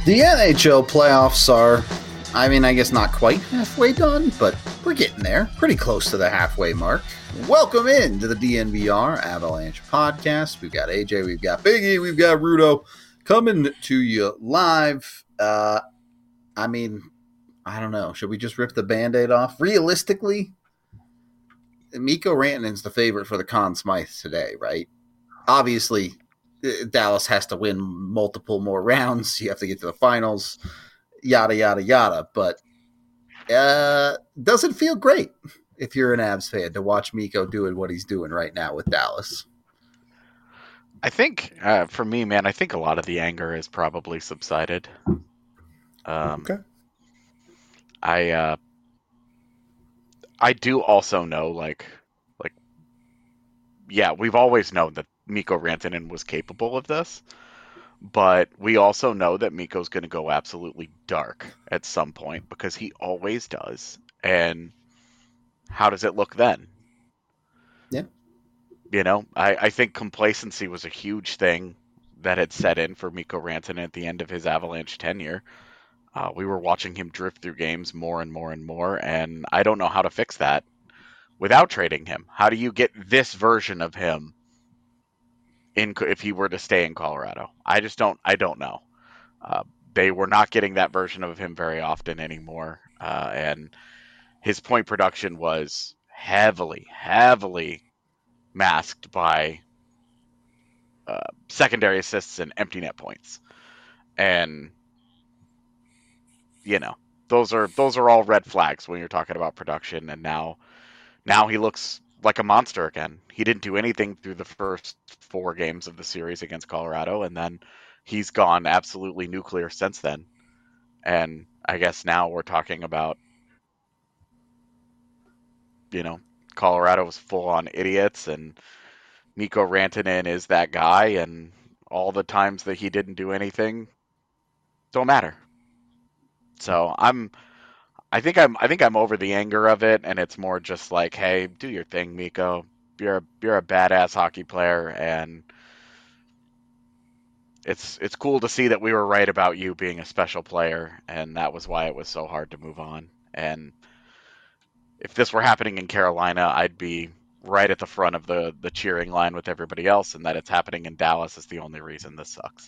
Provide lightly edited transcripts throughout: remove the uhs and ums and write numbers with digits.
The NHL playoffs are, I guess not quite halfway done, but we're getting there. Pretty close to the halfway mark. Welcome in to the DNVR Avalanche podcast. We've got AJ, we've got Biggie, we've got Rudo coming to you live. I don't know. Should we just rip the Band-Aid off? Realistically, Mikko Rantanen's the favorite for the Conn Smythe today, right? Obviously, Dallas has to win multiple more rounds. You have to get to the finals, yada, yada, yada. But doesn't feel great if you're an Avs fan to watch Mikko doing what he's doing right now with Dallas. I think, for me, man, I think a lot of the anger has probably subsided. Okay. I do also know, yeah, we've always known that Mikko Rantanen was capable of this, but we also know that Mikko's going to go absolutely dark at some point because he always does. And how does it look then? Yeah. You know, I think complacency was a huge thing that had set in for Mikko Rantanen at the end of his Avalanche tenure. We were watching him drift through games more and more and more, and I don't know how to fix that without trading him. How do you get this version of him if he were to stay in Colorado? I don't know. They were not getting that version of him very often anymore, and his point production was heavily masked by secondary assists and empty net points. And you know, those are all red flags when you're talking about production. And now he looks like a monster again. He didn't do anything through the first 4 games of the series against Colorado, and then he's gone absolutely nuclear since then. And I guess now we're talking about, Colorado was full on idiots, and Mikko Rantanen is that guy, and all the times that he didn't do anything don't matter. So I think I'm over the anger of it, and it's more just like, hey, do your thing, Mikko. You're a badass hockey player, and it's cool to see that we were right about you being a special player, and that was why it was so hard to move on. And if this were happening in Carolina, I'd be right at the front of the cheering line with everybody else, and that it's happening in Dallas is the only reason this sucks.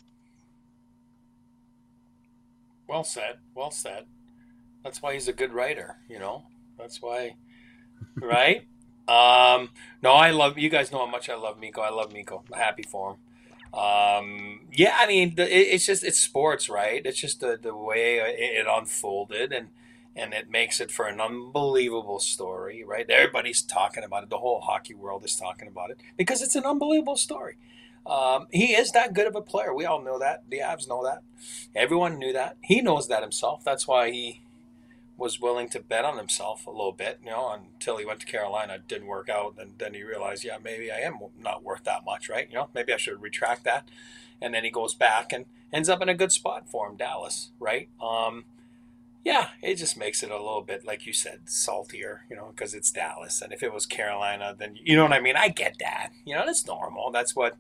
Well said. Well said. That's why he's a good writer, That's why, right? No, I love, you guys know how much I love Mikko. I love Mikko. I'm happy for him. Yeah, I mean, it's sports, right? It's just the way it unfolded, and it makes it for an unbelievable story, right? Everybody's talking about it. The whole hockey world is talking about it because it's an unbelievable story. He is that good of a player. We all know that. The Avs know that. Everyone knew that. He knows that himself. That's why he was willing to bet on himself a little bit, until he went to Carolina. It didn't work out. And then he realized, yeah, maybe I am not worth that much, right? Maybe I should retract that. And then he goes back and ends up in a good spot for him, Dallas, right? Yeah, it just makes it a little bit, like you said, saltier, because it's Dallas. And if it was Carolina, then, you know what I mean? I get that. That's normal. That's what,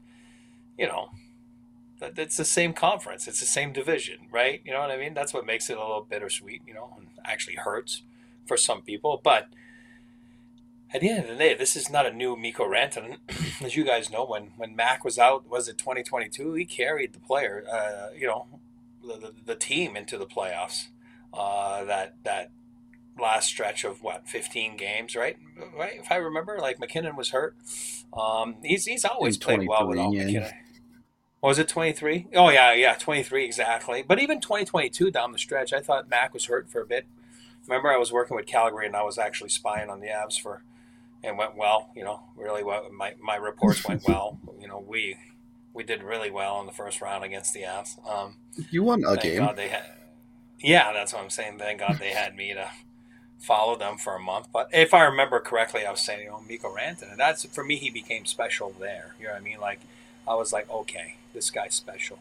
it's the same conference. It's the same division, right? You know what I mean? That's what makes it a little bittersweet, and actually hurts for some people. But at the end of the day, this is not a new Mikko Rantanen. As you guys know, when Mac was out, was it 2022? He carried the player, the team into the playoffs. That last stretch of 15 games, right? If I remember, like McKinnon was hurt. He's always played well without McKinnon. Was it 23? Oh, yeah, 23 exactly. But even 2022 down the stretch, I thought Mac was hurt for a bit. Remember, I was working with Calgary, and I was actually spying on the Avs and went well, really well. My reports went well. We did really well in the first round against the Avs. You won a game. God yeah, that's what I'm saying. Thank God they had me to follow them for a month. But if I remember correctly, I was saying, Mikko Rantanen, and that's, for me, he became special there. You know what I mean? Like, I was like, okay, this guy's special.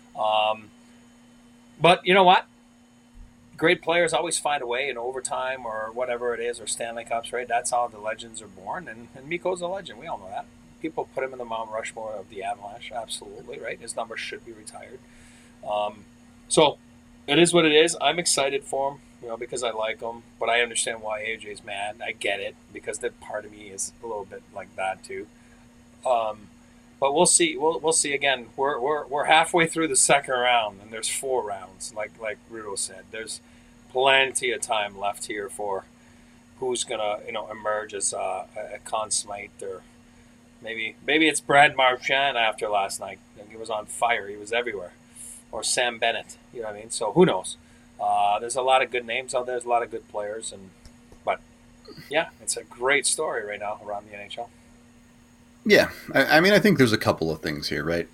But you know what? Great players always find a way in overtime or whatever it is, or Stanley Cups, right? That's how the legends are born, and Mikko's a legend. We all know that. People put him in the Mount Rushmore of the Avalanche, absolutely, right? His number should be retired. So It is what it is. I'm excited for him, because I like him, but I understand why AJ's mad. I get it because that part of me is a little bit like that too. But we'll see. We'll see again. We're halfway through the second round, and there's 4 rounds. Like Rudo said, there's plenty of time left here for who's gonna emerge as a Conn Smythe, or maybe it's Brad Marchand after last night. He was on fire. He was everywhere. Or Sam Bennett. You know what I mean? So who knows? There's a lot of good names out there. There's a lot of good players, but yeah, it's a great story right now around the NHL. Yeah, I mean, I think there's a couple of things here, right?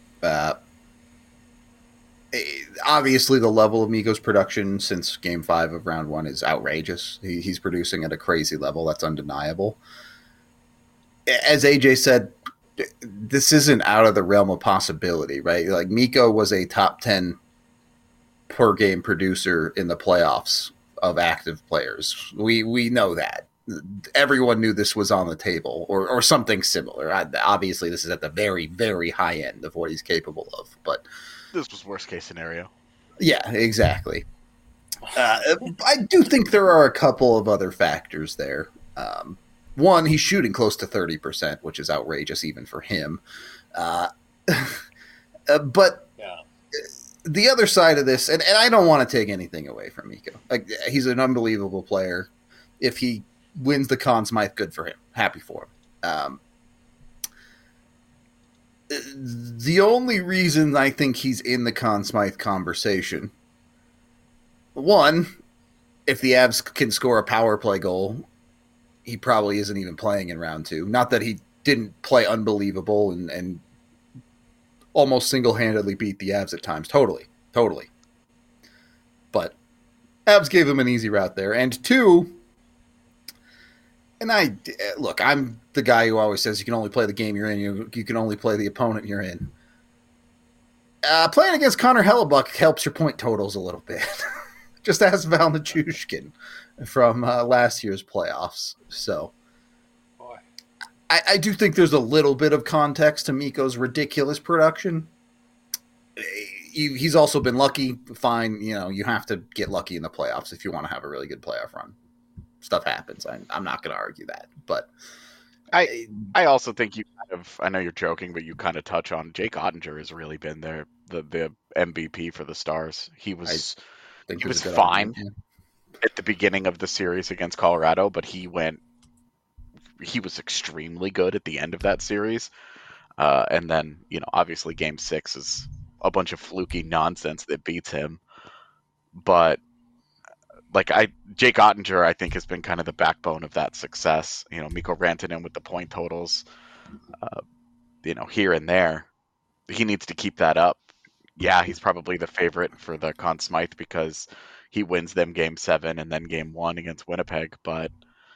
Obviously, the level of Mikko's production since Game 5 of Round 1 is outrageous. He's producing at a crazy level. That's undeniable. As AJ said, this isn't out of the realm of possibility, right? Like, Mikko was a top 10 per game producer in the playoffs of active players. We know that. Everyone knew this was on the table, or something similar. Obviously, this is at the very, very high end of what he's capable of. But this was worst case scenario. Yeah, exactly. I do think there are a couple of other factors there. One, he's shooting close to 30%, which is outrageous even for him. But yeah. The other side of this, and I don't want to take anything away from Mikko. Like, he's an unbelievable player. If he wins the Conn Smythe, good for him. Happy for him. The only reason I think he's in the Conn Smythe conversation, one, if the Avs can score a power play goal, he probably isn't even playing in round 2. Not that he didn't play unbelievable and almost single-handedly beat the Avs at times. Totally. But Avs gave him an easy route there. And 2, and I'm the guy who always says you can only play the game you're in. You can only play the opponent you're in. Playing against Connor Hellebuck helps your point totals a little bit. Just ask Val Nichushkin from last year's playoffs. So I do think there's a little bit of context to Mikko's ridiculous production. He's also been lucky. Fine, you have to get lucky in the playoffs if you want to have a really good playoff run. Stuff happens. I'm not going to argue that, but I also think you kind of, I know you're joking, but you kind of touch on Jake Ottinger has really been the MVP for the Stars. He was fine at the beginning of the series against Colorado, but he was extremely good at the end of that series. And then, obviously Game 6 is a bunch of fluky nonsense that beats him. But Jake Ottinger, I think, has been kind of the backbone of that success. Mikko Rantanen with the point totals, here and there. He needs to keep that up. Yeah, he's probably the favorite for the Conn Smythe because he wins them Game 7 and then Game 1 against Winnipeg. But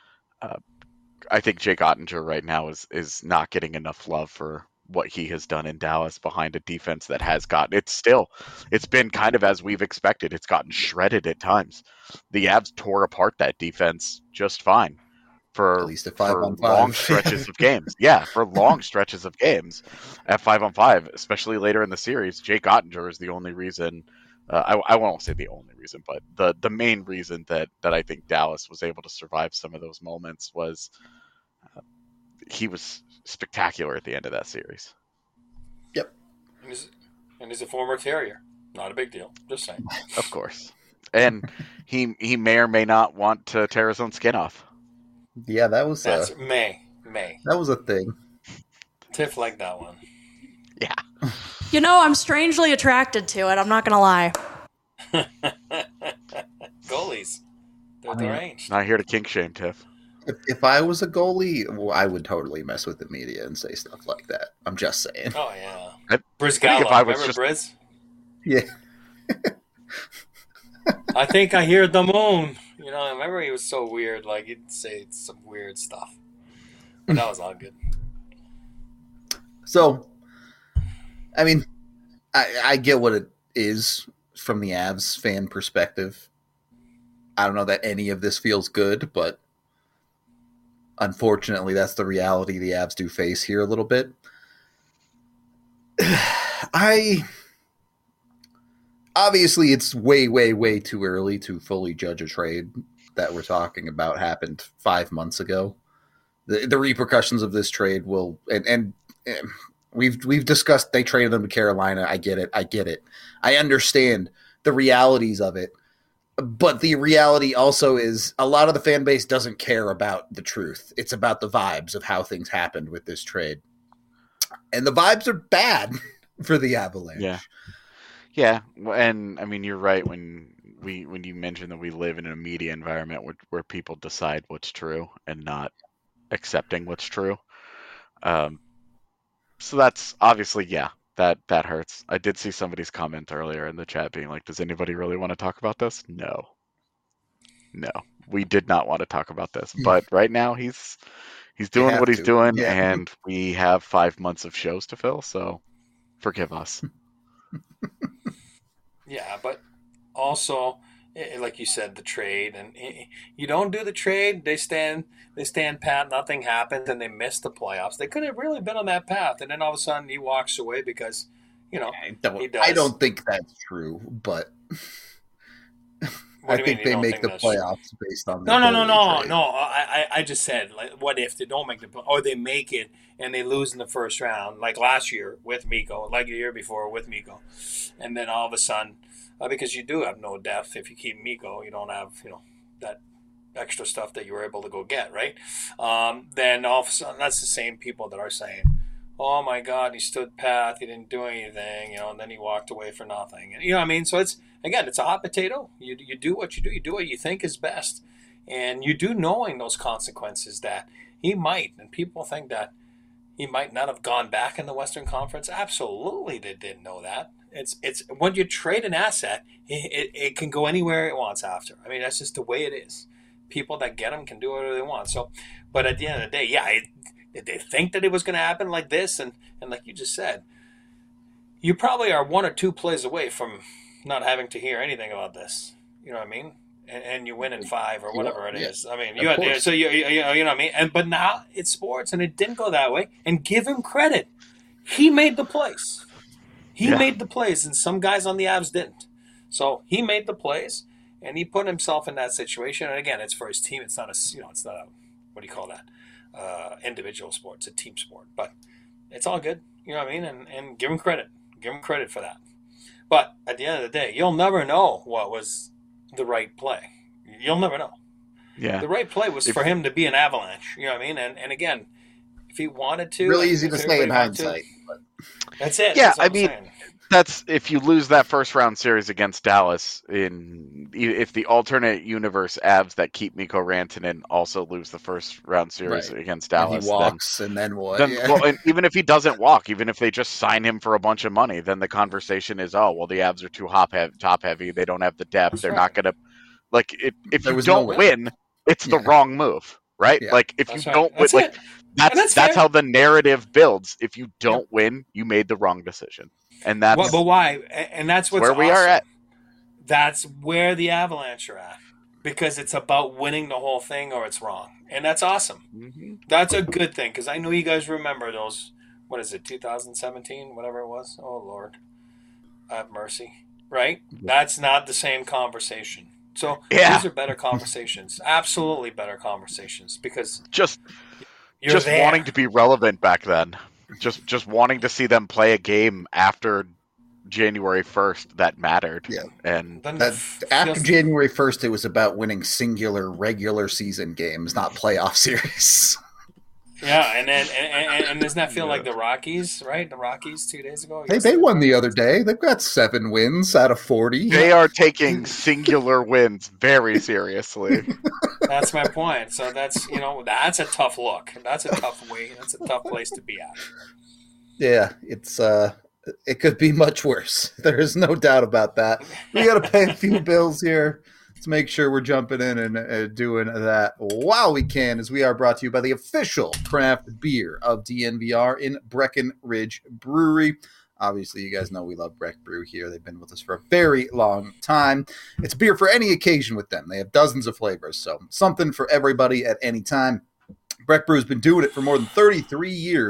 I think Jake Ottinger right now is not getting enough love for what he has done in Dallas behind a defense that has it's been kind of as we've expected. It's gotten shredded at times. The Avs tore apart that defense just fine for at least at 5-on-5 long stretches of games. Yeah, for long stretches of games at 5-on-5, especially later in the series. Jake Ottinger is the only reason. I won't say the only reason, but the main reason that I think Dallas was able to survive some of those moments was he was spectacular at the end of that series. Yep. And he's a former Terrier. Not a big deal. Just saying. Of course. And he may or may not want to tear his own skin off. Yeah, that's May. That was a thing. Tiff liked that one. Yeah. I'm strangely attracted to it. I'm not going to lie. Goalies. They're deranged. Not here to kink shame, Tiff. If I was a goalie, I would totally mess with the media and say stuff like that. I'm just saying. Oh, yeah. Brizgallo. Remember Briz? Yeah. I think I hear the moon. I remember he was so weird. Like, he'd say some weird stuff. But that was all good. So, I mean, I get what it is from the Avs fan perspective. I don't know that any of this feels good, but unfortunately, that's the reality the Avs do face here a little bit. I obviously it's way, way, way too early to fully judge a trade that we're talking about happened 5 months ago. The repercussions of this trade will, and we've discussed they traded them to Carolina. I get it. I understand the realities of it. But the reality also is a lot of the fan base doesn't care about the truth. It's about the vibes of how things happened with this trade. And the vibes are bad for the Avalanche. Yeah. And I mean, you're right when you mentioned that we live in a media environment where people decide what's true and not accepting what's true. So that's obviously, that hurts. I did see somebody's comment earlier in the chat being like, does anybody really want to talk about this? No, we did not want to talk about this. But right now he's doing what he's doing, and we have 5 months of shows to fill, so forgive us. Yeah, but also, like you said, the trade, and you don't do the trade, they stand pat, nothing happens, and they miss the playoffs. They could have really been on that path, and then all of a sudden he walks away because, he does. I don't think that's true, but I think they make the playoffs based on No. I just said, like, what if they don't make the or they make it and they lose in the first round, like last year with Mikko, like the year before with Mikko, and then all of a sudden, because you do have no depth if you keep Mikko, you don't have that extra stuff that you were able to go get, right? Then all of a sudden, that's the same people that are saying, "Oh my God, he stood pat, he didn't do anything," and then he walked away for nothing. And, you know what I mean? So it's a hot potato. You do what you do. You do what you think is best, and you do knowing those consequences that he might. And people think that he might not have gone back in the Western Conference. Absolutely, they didn't know that. It's when you trade an asset, it can go anywhere it wants after. I mean, that's just the way it is. People that get them can do whatever they want. So, but at the end of the day, did they think that it was going to happen like this? And like you just said, you probably are 1 or 2 plays away from not having to hear anything about this. You know what I mean? And you win in 5 or whatever it is. I mean, you know what I mean? But now it's sports, and it didn't go that way. And give him credit. He made the plays. He made the plays, and some guys on the Avs didn't. So he made the plays, and he put himself in that situation. And again, it's for his team. It's not it's not a, what do you call that? Individual sport. It's a team sport. But it's all good. You know what I mean? And give him credit. Give him credit for that. But at the end of the day, you'll never know what was the right play. You'll never know. Yeah. The right play was for him to be an Avalanche. You know what I mean? And again, if he wanted to, really easy to say in hindsight. That's it. Yeah, I mean, that's if you lose that first round series against Dallas. If the alternate universe Avs that keep Mikko Rantanen also lose the first round series against Dallas, and he walks, and then what? Well, and even if he doesn't walk, even if they just sign him for a bunch of money, then the conversation is, oh well, the Avs are too top heavy. They don't have the depth. That's They're right. not going to if you don't win, it's the wrong move, right? Yeah. Like if That's you right. don't win, That's that's fair. how the narrative builds. If you don't win, you made the wrong decision. And that's but why? And that's what's where we awesome. are at. That's where the Avalanche are at, because it's about winning the whole thing, or it's wrong, and that's awesome. Mm-hmm. That's a good thing, because I know you guys remember those. What is it? 2017, whatever it was. Oh Lord, have mercy. Right? That's not the same conversation. So these are better conversations. Absolutely better conversations, because Just you're there. wanting to be relevant back then. Just wanting to see them play a game after January 1st that mattered. Yeah. And Then After January 1st, it was about winning singular regular season games, not playoff series. Yeah, and doesn't that feel like the Rockies, right? The Rockies 2 days ago? They won the other day. They've got 7 wins out of 40. they are taking singular wins very seriously. That's my point. So that's a tough look. That's a tough way. That's a tough place to be at. Yeah, it could be much worse. There is no doubt about that. We got to pay a few bills here. Let's make sure we're jumping in and doing that while we can, as we are brought to you by the official craft beer of DNVR in Breckenridge Brewery. Obviously, you guys know we love Breck Brew here. They've been with us for a very long time. It's beer for any occasion with them. They have dozens of flavors, so something for everybody at any time. Breck Brew has been doing it for more than 33 years,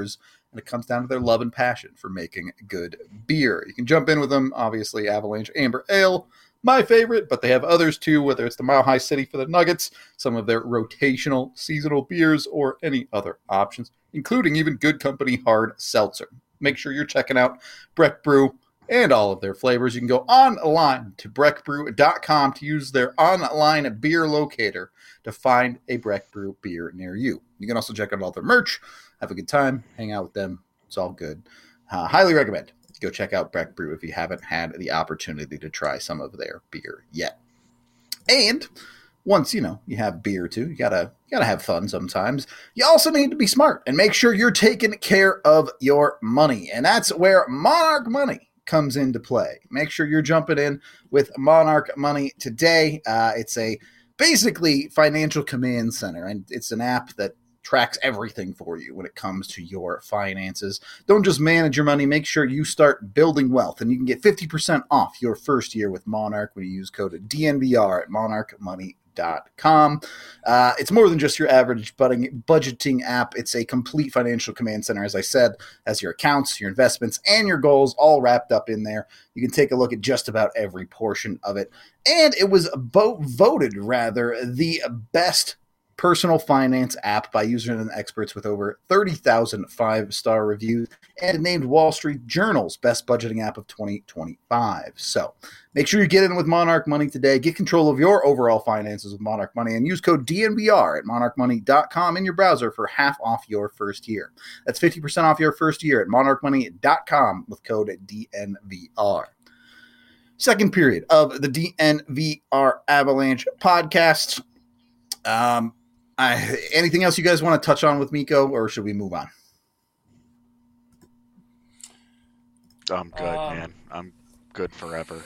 and it comes down to their love and passion for making good beer. You can jump in with them, obviously, Avalanche Amber Ale, my favorite, but they have others too, whether it's the Mile High City for the Nuggets, some of their rotational seasonal beers, or any other options, including even Good Company Hard Seltzer. Make sure you're checking out Breck Brew and all of their flavors. You can go online to breckbrew.com to use their online beer locator to find a Breck Brew beer near you. You can also check out all their merch, have a good time, hang out with them. It's all good. Highly recommend. Go check out Breck Brew if you haven't had the opportunity to try some of their beer yet. And once, you have beer too, you gotta have fun sometimes. You also need to be smart and make sure you're taking care of your money. And that's where Monarch Money comes into play. Make sure you're jumping in with Monarch Money today. It's a basically financial command center, and it's an app that tracks everything for you when it comes to your finances. Don't just manage your money. Make sure you start building wealth. And you can get 50% off your first year with Monarch when you use code DNVR at monarchmoney.com. It's more than just your average budgeting app. It's a complete financial command center, as I said, has your accounts, your investments, and your goals all wrapped up in there. You can take a look at just about every portion of it. And it was voted the best personal finance app by users and experts with over 30,000 5-star reviews, and named Wall Street Journal's best budgeting app of 2025. So make sure you get in with Monarch Money today. Get control of your overall finances with Monarch Money and use code DNVR at monarchmoney.com in your browser for half off your first year. That's 50% off your first year at monarchmoney.com with code DNVR. Second period of the DNVR Avalanche podcast. Anything else you guys want to touch on with Mikko, or should we move on? I'm good, man. I'm good forever.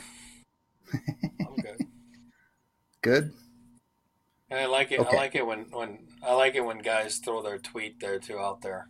I'm good. Good. And I like it. Okay. I like it when guys throw their tweet there too out there.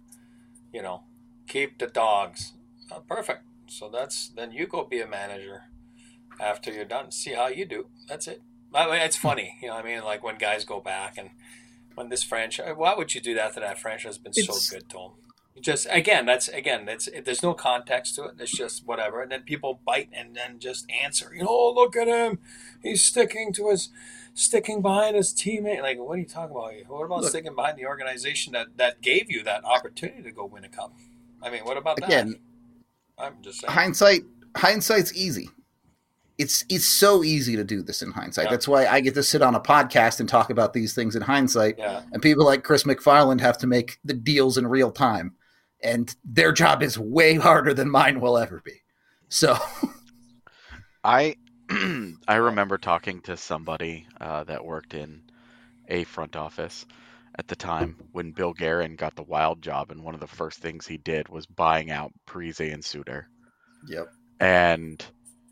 Keep the dogs. Perfect. So then you go be a manager after you're done. See how you do. That's it. I mean, it's funny. Like when guys go back and. When this franchise, why would you do that to that franchise? Has been so good to them. Just there's no context to it. It's just whatever, and then people bite and then just answer. Look at him. He's sticking behind his teammate. Like, what are you talking about? What about sticking behind the organization that gave you that opportunity to go win a cup? I mean, what about that? I'm just saying. Hindsight's easy. It's so easy to do this in hindsight. Yeah. That's why I get to sit on a podcast and talk about these things in hindsight. Yeah. And people like Chris McFarland have to make the deals in real time. And their job is way harder than mine will ever be. So I remember talking to somebody that worked in a front office at the time when Bill Guerin got the Wild job, and one of the first things he did was buying out Parise and Suter. Yep. And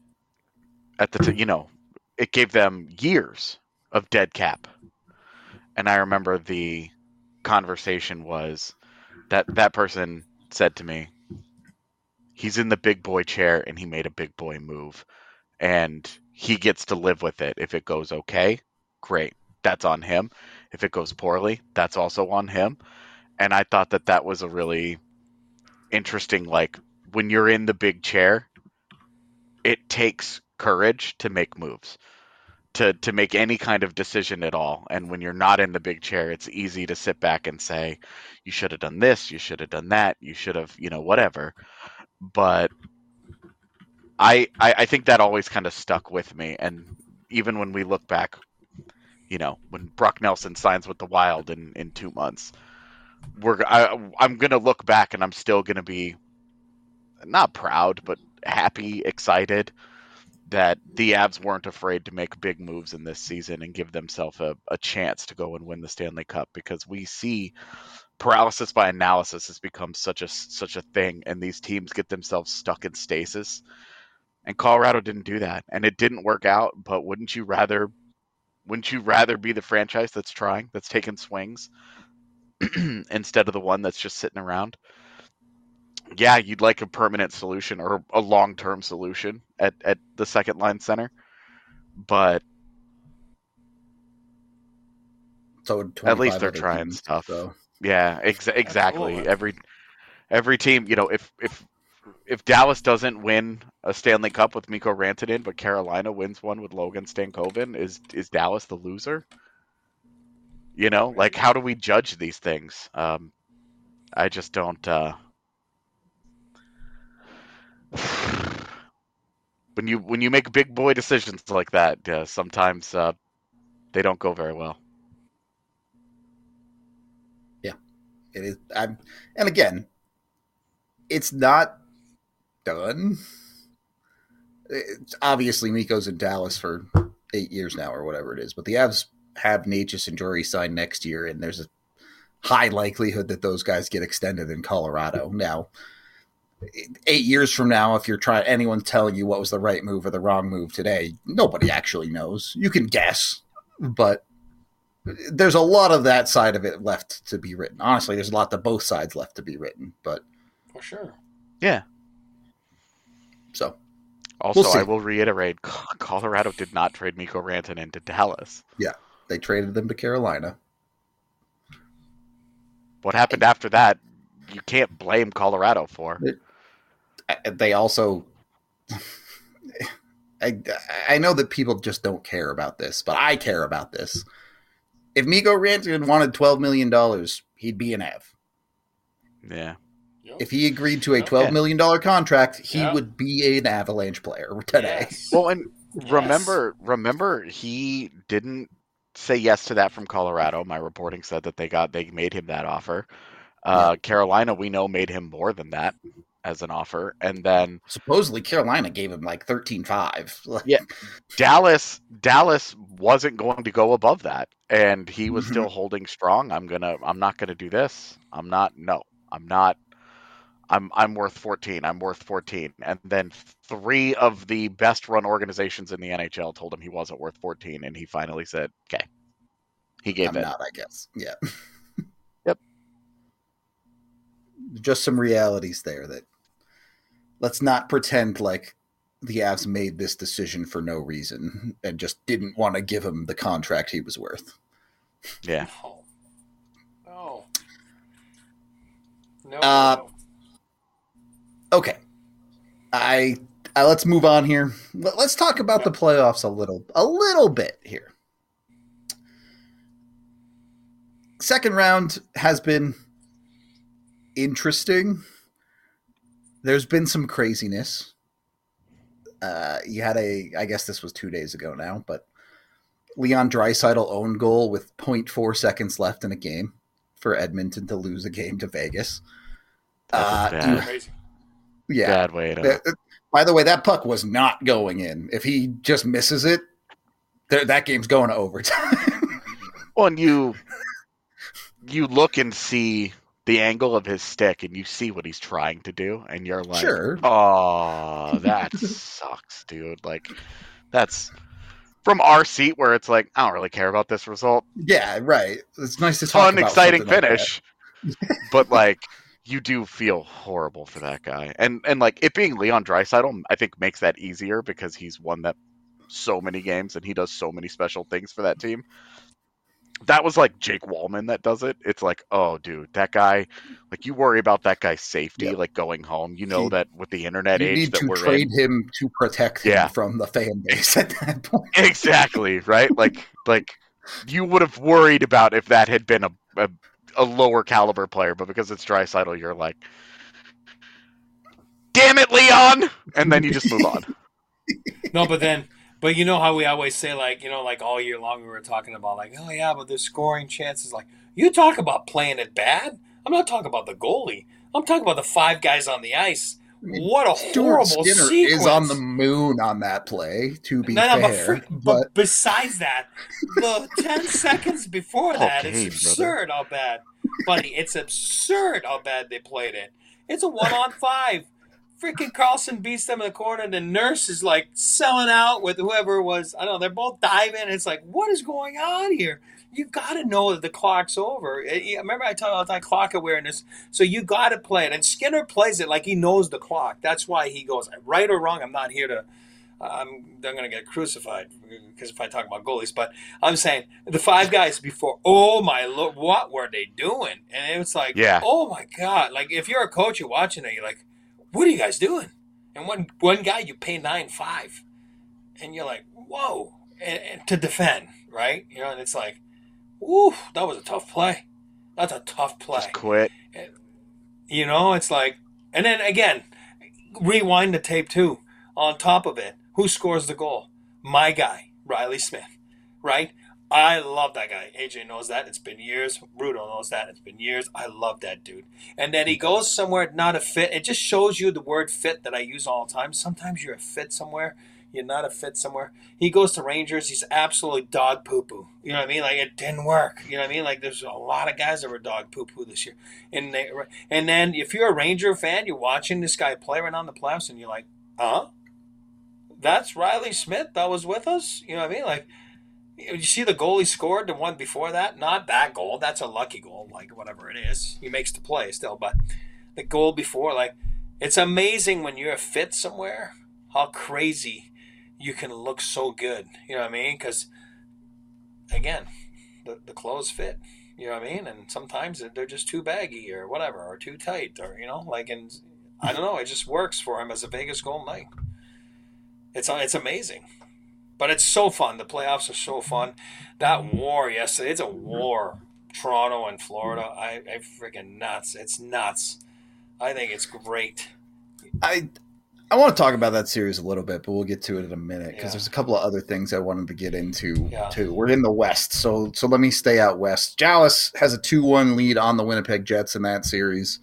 at the it gave them years of dead cap. And I remember the conversation was that person said to me, he's in the big boy chair and he made a big boy move and he gets to live with it. If it goes okay, great. That's on him. If it goes poorly, that's also on him. And I thought that was a really interesting, like, when you're in the big chair, it takes courage to make moves, to make any kind of decision at all. And when you're not in the big chair, it's easy to sit back and say, you should have done this, you should have done that, you should have, whatever. But I think that always kind of stuck with me. And even when we look back, when Brock Nelson signs with the Wild in 2 months, I'm going to look back and I'm still going to be not proud, but happy, excited that the Avs weren't afraid to make big moves in this season and give themselves a chance to go and win the Stanley Cup, because we see paralysis by analysis has become such a thing, and these teams get themselves stuck in stasis. And Colorado didn't do that, and it didn't work out. But wouldn't you rather be the franchise that's trying, that's taking swings, instead of the one that's just sitting around? Yeah, you'd like a permanent solution or a long-term solution at the second line center, but so at least they're trying stuff. So. Yeah, exactly. Absolutely. Every team, if Dallas doesn't win a Stanley Cup with Mikko Rantanen, but Carolina wins one with Logan Stankoven, is Dallas the loser? Like, how do we judge these things? I just don't. When you make big boy decisions like that, sometimes they don't go very well. Yeah, it is. And again, it's not done. Obviously, Mikko's in Dallas for 8 years now, or whatever it is. But the Avs have Necas and Drury signed next year, and there's a high likelihood that those guys get extended in Colorado. Now, 8 years from now, if anyone's telling you what was the right move or the wrong move today, nobody actually knows. You can guess, but there's a lot of that side of it left to be written. Honestly, there's a lot of both sides left to be written, but for sure. Yeah. So, also, I will reiterate, Colorado did not trade Mikko Rantanen to Dallas. Yeah, they traded them to Carolina. What happened after that, you can't blame Colorado for. They also... I know that people just don't care about this, but I care about this. If Mikko Rantanen wanted $12 million, he'd be an Av. Yeah. If he agreed to a $12 million contract, he would be an Avalanche player today. Yes. Well, and remember, he didn't say yes to that from Colorado. My reporting said that they made him that offer. Carolina, we know, made him more than that as an offer, and then supposedly Carolina gave him like 13.5. Yeah, Dallas wasn't going to go above that, and he was still holding strong. I'm not gonna do this. I'm worth 14. I'm worth 14. And then 3 of the best run organizations in the NHL told him he wasn't worth 14, and he finally said, "Okay." He gave it. Not, I guess. Yeah. Yep. Just some realities there that let's not pretend like the Avs made this decision for no reason and just didn't want to give him the contract he was worth. Yeah. No. Okay. Let's move on here. Let's talk about the playoffs a little bit here. Second round has been interesting. There's been some craziness. You had I guess this was 2 days ago now, but Leon Draisaitl own goal with 0.4 seconds left in a game for Edmonton to lose a game to Vegas. Crazy. Yeah. Bad way to... By the way, that puck was not going in. If he just misses it, that game's going to overtime. Well, and you look and see the angle of his stick, and you see what he's trying to do, and you're like, sure. Oh, that sucks, dude. Like, that's from our seat where it's like, I don't really care about this result. Yeah, right. It's nice to talk about exciting finish. Like but, like, you do feel horrible for that guy. And like, it being Leon Draisaitl, I think makes that easier because he's won that so many games and he does so many special things for that team. That was like Jake Wallman that does it. It's like, oh, dude, that guy, like, you worry about that guy's safety, like going home. You know that with the internet age that we're in. You need to trade him to protect him from the fan base at that point. Exactly, right? Like you would have worried about if that had been a lower caliber player, but because it's Draisaitl, you're like, damn it, Leon! And then you just move on. No, but you know how we always say, like, like all year long we were talking about, like, oh yeah, but the scoring chances, like, you talk about playing it bad. I'm not talking about the goalie. I'm talking about the 5 guys on the ice. What a horrible Skinner sequence. Is on the moon on that play, to be fair. But besides that, the 10 seconds before that, it's absurd how bad. Buddy, it's absurd how bad they played it. It's a 1-on-5. Freaking Carlson beats them in the corner, and the Nurse is like selling out with whoever it was. I don't know, they're both diving. It's like, what is going on here? You got to know that the clock's over. Remember I tell you all the time, clock awareness. So you got to play it. And Skinner plays it like he knows the clock. That's why he goes, right or wrong, I'm not here they're going to get crucified because if I talk about goalies, but I'm saying the 5 guys before, oh my Lord, what were they doing? And it was like, oh my God. Like if you're a coach, you're watching it, you're like, what are you guys doing? And one guy you pay 9.5 and you're like, whoa, and to defend, right? You know, and it's like, woo, that was a tough play. That's a tough play. Just quit. And, you know, it's like, and then again, rewind the tape too. On top of it, who scores the goal? My guy, Riley Smith, right? I love that guy. AJ knows that. It's been years. Rudo knows that. It's been years. I love that dude. And then he goes somewhere not a fit. It just shows you the word fit that I use all the time. Sometimes you're a fit somewhere. You're not a fit somewhere. He goes to Rangers. He's absolutely dog poo-poo. You know what I mean? Like, it didn't work. You know what I mean? Like, there's a lot of guys that were dog poo-poo this year. And then if you're a Ranger fan, you're watching this guy play right on the playoffs, and you're like, that's Riley Smith that was with us? You know what I mean? Like, you see the goal he scored, the one before that? Not that goal. That's a lucky goal, like, whatever it is. He makes the play still. But the goal before, like, it's amazing when you're a fit somewhere, how crazy you can look so good. You know what I mean? Because, again, the clothes fit. You know what I mean? And sometimes they're just too baggy or whatever, or too tight, or, you know, like, and I don't know. It just works for him as a Vegas Golden Knight. It's amazing. But it's so fun. The playoffs are so fun. That war yesterday, it's a war. Toronto and Florida, I freaking nuts. It's nuts. I think it's great. I want to talk about that series a little bit, but we'll get to it in a minute because there's a couple of other things I wanted to get into too. We're in the West, so let me stay out West. Dallas has a 2-1 lead on the Winnipeg Jets in that series.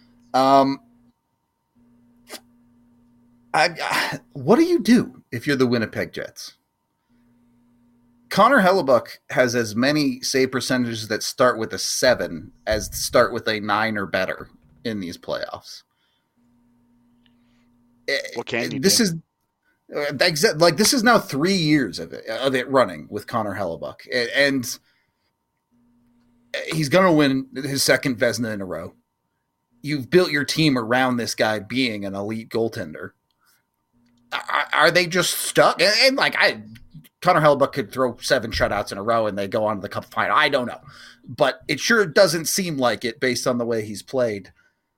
What do you do if you're the Winnipeg Jets? Connor Hellebuyck has as many save percentages that start with a 7 as start with a 9 or better in these playoffs. What can you this do? This is now 3 years of it running with Connor Hellebuyck, and he's going to win his second Vezina in a row. You've built your team around this guy being an elite goaltender. Are they just stuck? And Connor Hellebuyck could throw 7 shutouts in a row and they go on to the Cup final. I don't know. But it sure doesn't seem like it based on the way he's played.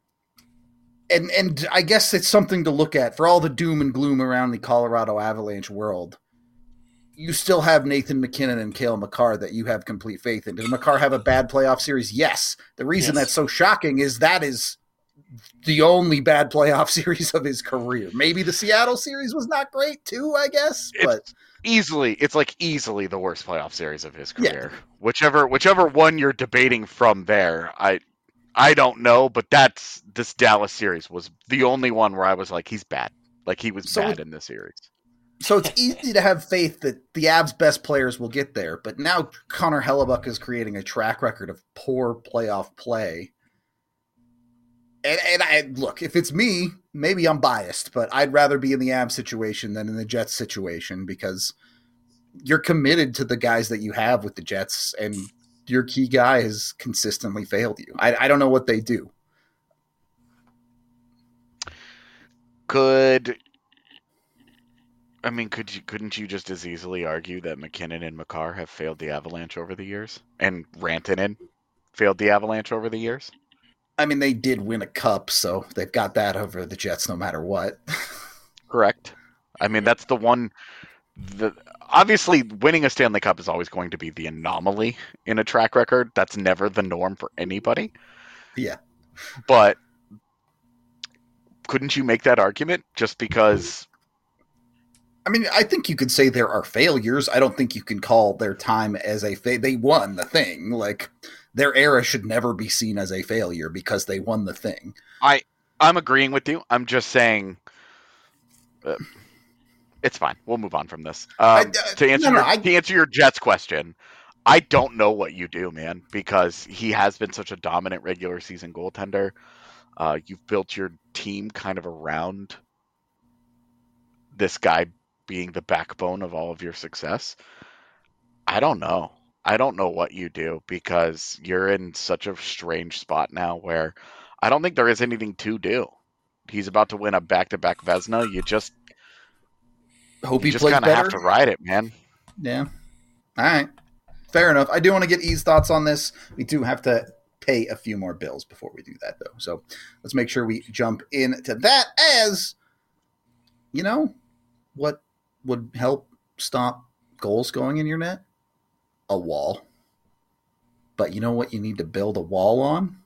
And I guess it's something to look at for all the doom and gloom around the Colorado Avalanche world. You still have Nathan McKinnon and Cale Makar that you have complete faith in. Did Makar have a bad playoff series? Yes. The reason that's so shocking is that is the only bad playoff series of his career. Maybe the Seattle series was not great too, I guess. But it's like easily the worst playoff series of his career. Yeah. Whichever one you're debating from there, I don't know, but this Dallas series was the only one where I was like, he's bad. Like he was bad in this series. So it's easy to have faith that the Avs' best players will get there, but now Connor Hellebuyck is creating a track record of poor playoff play. And I look, if it's me, maybe I'm biased, but I'd rather be in the Avs situation than in the Jets situation because you're committed to the guys that you have with the Jets, and your key guy has consistently failed you. I don't know what they do. Couldn't you just as easily argue that McKinnon and Makar have failed the Avalanche over the years, and Rantanen failed the Avalanche over the years? I mean, they did win a cup, so they've got that over the Jets no matter what. Correct. I mean, that's the one. Obviously, winning a Stanley Cup is always going to be the anomaly in a track record. That's never the norm for anybody. Yeah. But couldn't you make that argument just because? I mean, I think you could say there are failures. I don't think you can call their time as they won the thing. Like, their era should never be seen as a failure because they won the thing. I'm agreeing with you. I'm just saying it's fine. We'll move on from this. To answer your Jets question, I don't know what you do, man, because he has been such a dominant regular season goaltender. You've built your team kind of around this guy being the backbone of all of your success. I don't know. I don't know what you do because you're in such a strange spot now where I don't think there is anything to do. He's about to win a back-to-back Vezina. Hope You he just plays kind of have better. to ride it, man. Yeah. All right. Fair enough. I do want to get E's thoughts on this. We do have to pay a few more bills before we do that, though. So let's make sure we jump into that. As you know, what would help stop goals going in your net? A wall. But you know what you need to build a wall on?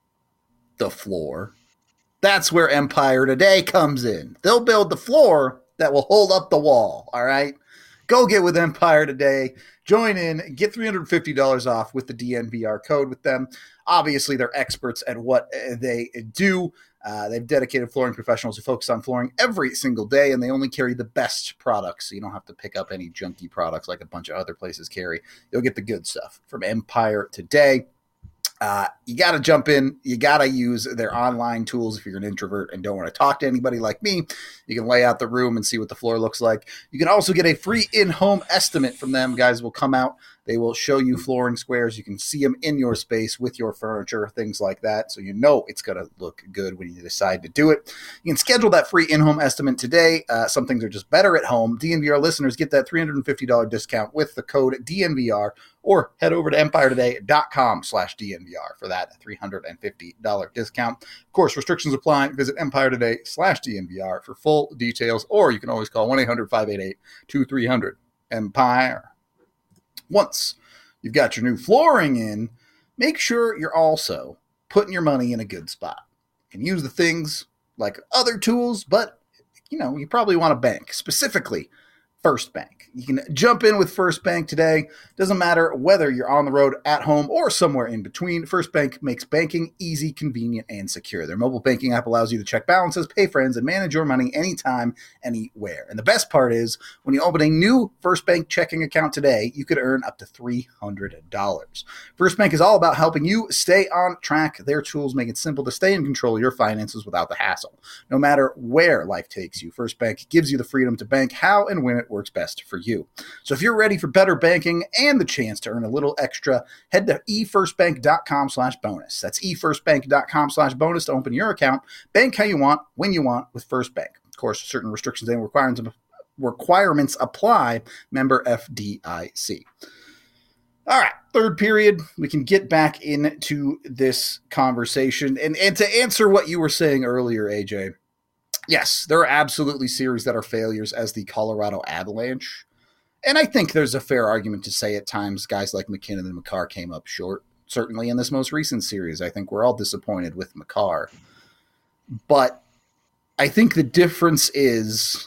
The floor. That's where Empire Today comes in. They'll build the floor that will hold up the wall, all right? Go get with Empire Today. Join in. Get $350 off with the DNVR code with them. Obviously, they're experts at what they do. They've dedicated flooring professionals who focus on flooring every single day, and they only carry the best products, so you don't have to pick up any junky products like a bunch of other places carry. You'll get the good stuff from Empire Today. You got to jump in. You got to use their online tools if you're an introvert and don't want to talk to anybody like me. You can lay out the room and see what the floor looks like. You can also get a free in-home estimate from them. Guys will come out. They will show you flooring squares. You can see them in your space with your furniture, things like that. So you know it's going to look good when you decide to do it. You can schedule that free in-home estimate today. Some things are just better at home. DNVR listeners get that $350 discount with the code DNVR, or head over to empiretoday.com/DNVR for that $350 discount. Of course, restrictions apply. Visit empiretoday.com/DNVR for full details, or you can always call 1-800-588-2300. Empire. Once you've got your new flooring in, make sure you're also putting your money in a good spot. You can use the things like other tools, but you probably want a bank, specifically First Bank. You can jump in with First Bank today. Doesn't matter whether you're on the road, at home, or somewhere in between. First Bank makes banking easy, convenient, and secure. Their mobile banking app allows you to check balances, pay friends, and manage your money anytime, anywhere. And the best part is, when you open a new First Bank checking account today, you could earn up to $300. First Bank is all about helping you stay on track. Their tools make it simple to stay in control of your finances without the hassle. No matter where life takes you, First Bank gives you the freedom to bank how and when it works best for you. So if you're ready for better banking and the chance to earn a little extra, head to efirstbank.com/bonus. That's efirstbank.com/bonus to open your account. Bank how you want, when you want with First Bank. Of course, certain restrictions and requirements apply. Member FDIC. All right, third period, we can get back into this conversation. And to answer what you were saying earlier, AJ, yes, there are absolutely series that are failures, as the Colorado Avalanche. And I think there's a fair argument to say at times guys like McKinnon and Makar came up short. Certainly in this most recent series, I think we're all disappointed with Makar. But I think the difference is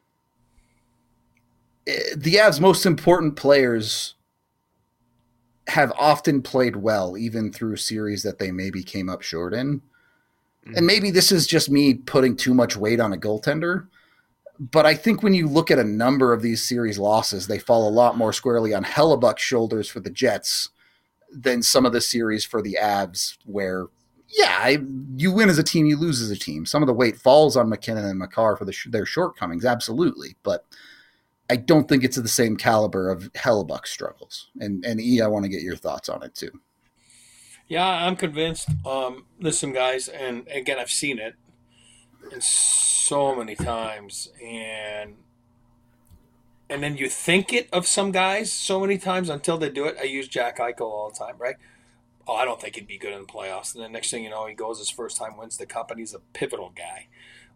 the Avs' most important players have often played well, even through series that they maybe came up short in. And maybe this is just me putting too much weight on a goaltender, but I think when you look at a number of these series losses, they fall a lot more squarely on Hellebuck's shoulders for the Jets than some of the series for the Avs, where, you win as a team, you lose as a team. Some of the weight falls on McKinnon and Makar for their shortcomings, absolutely, but I don't think it's of the same caliber of Hellebuck's struggles. And E, I want to get your thoughts on it too. Yeah, I'm convinced. Listen, guys, and again, I've seen it so many times, and then you think it of some guys so many times until they do it. I use Jack Eichel all the time, right? Oh, I don't think he'd be good in the playoffs. And then next thing you know, he goes his first time, wins the cup, and he's a pivotal guy.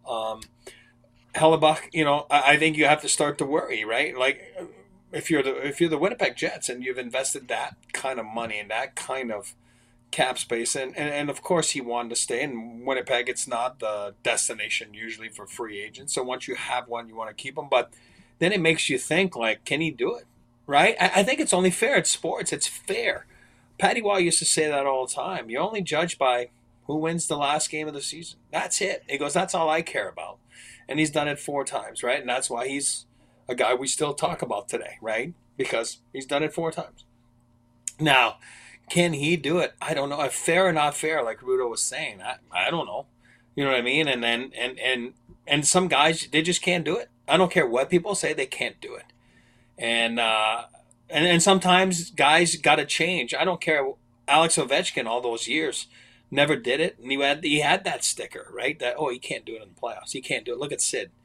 Hellebuck, I think you have to start to worry, right? Like if you're the Winnipeg Jets and you've invested that kind of money and that kind of cap space, and of course he wanted to stay in Winnipeg. It's not the destination usually for free agents, so once you have one, you want to keep him. But then it makes you think, like, can he do it, right? I think it's only fair. It's sports. It's fair. Patty Waugh used to say that all the time. You only judge by who wins the last game of the season. That's it. He goes, that's all I care about. And he's done it 4 times, right? And that's why he's a guy we still talk about today, right? Because he's done it 4 times. Now, can he do it? I don't know. If fair or not fair, like Rudo was saying, I don't know. You know what I mean? And then and some guys, they just can't do it. I don't care what people say, they can't do it. And sometimes guys got to change. I don't care. Alex Ovechkin, all those years, never did it, and he had that sticker, right? That he can't do it in the playoffs. He can't do it. Look at Sid.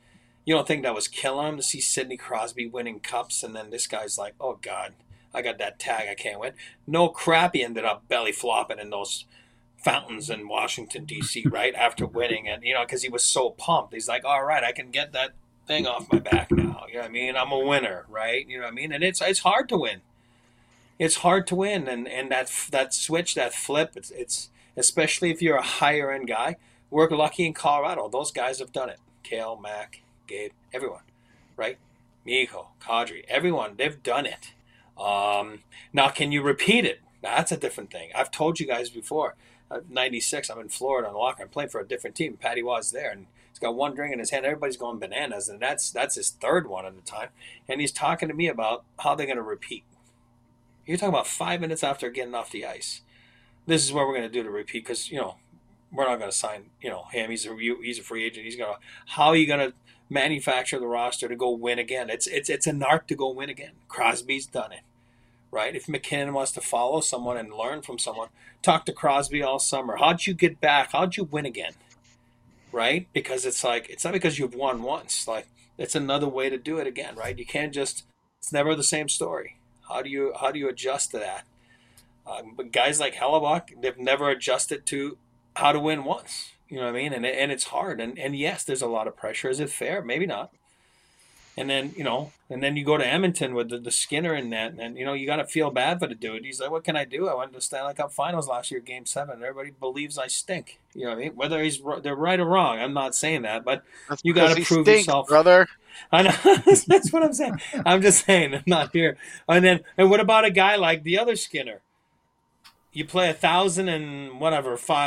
You don't think that was killing him to see Sidney Crosby winning cups, and then this guy's like, oh God, I got that tag, I can't win. No crap, he ended up belly flopping in those fountains in Washington D.C. right after winning, and because he was so pumped, he's like, all right, I can get that thing off my back now. You know what I mean? I'm a winner, right? You know what I mean? And it's hard to win. It's hard to win, and that switch, that flip, it's especially if you're a higher end guy. We're lucky in Colorado; those guys have done it. Kale, Mac, Gabe, everyone, right? Mikko, Kadri, everyone, they've done it. Now, can you repeat it? That's a different thing. I've told you guys before. 96, I'm in Florida on the locker. I'm playing for a different team. Patty was there, and he's got one drink in his hand. Everybody's going bananas, and that's his third one at the time. And he's talking to me about how they're going to repeat. You're talking about 5 minutes after getting off the ice. This is what we're going to do to repeat because, we're not going to sign, him. He's a free agent. How are you going to manufacture the roster to go win again? It's an art to go win again. Crosby's done it. Right? If McKinnon wants to follow someone and learn from someone, talk to Crosby all summer. How'd you get back? How'd you win again? Right? Because it's not because you've won once. Like, it's another way to do it again, right? You can't it's never the same story. How do you adjust to that? But guys like Hellebuyck, they've never adjusted to how to win once. You know what I mean? And it's hard. And yes, there's a lot of pressure. Is it fair? Maybe not. And then, you go to Edmonton with the Skinner in that, and you got to feel bad for the dude. He's like, what can I do? I went to the Stanley Cup Finals last year, Game 7. Everybody believes I stink. You know what I mean? Whether they're right or wrong, I'm not saying that, but that's you got to prove yourself, brother. I know. That's what I'm saying. I'm just saying, I'm not here. And what about a guy like the other Skinner? You play 1,000 and whatever,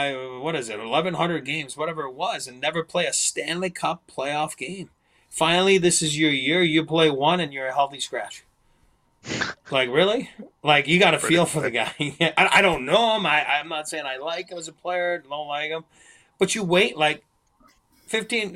1,100 games, whatever it was, and never play a Stanley Cup playoff game. Finally, this is your year. You play one, and you're a healthy scratch. Like, really? Like, you got to feel for the guy. I don't know him. I'm not saying I like him as a player. Don't like him. But you wait, 15,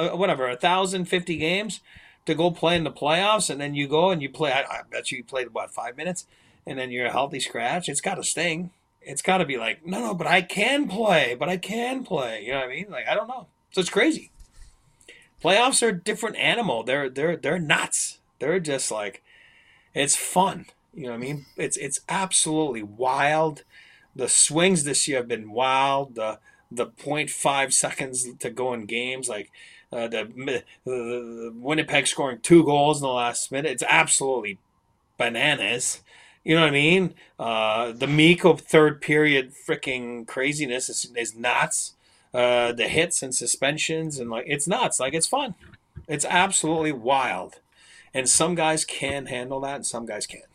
1,050 games to go play in the playoffs, and then you go and you play. I bet you played, 5 minutes, and then you're a healthy scratch. It's got to sting. It's got to be like, no, but I can play. You know what I mean? Like, I don't know. So it's crazy. Playoffs are a different animal. They're nuts. They're just like, it's fun. You know what I mean? It's absolutely wild. The swings this year have been wild. The 0.5 seconds to go in games, like the Winnipeg scoring 2 goals in the last minute. It's absolutely bananas. You know what I mean? The Mikko third period freaking craziness is nuts. The hits and suspensions and it's nuts. Like, it's fun. It's absolutely wild. And some guys can handle that and some guys can't.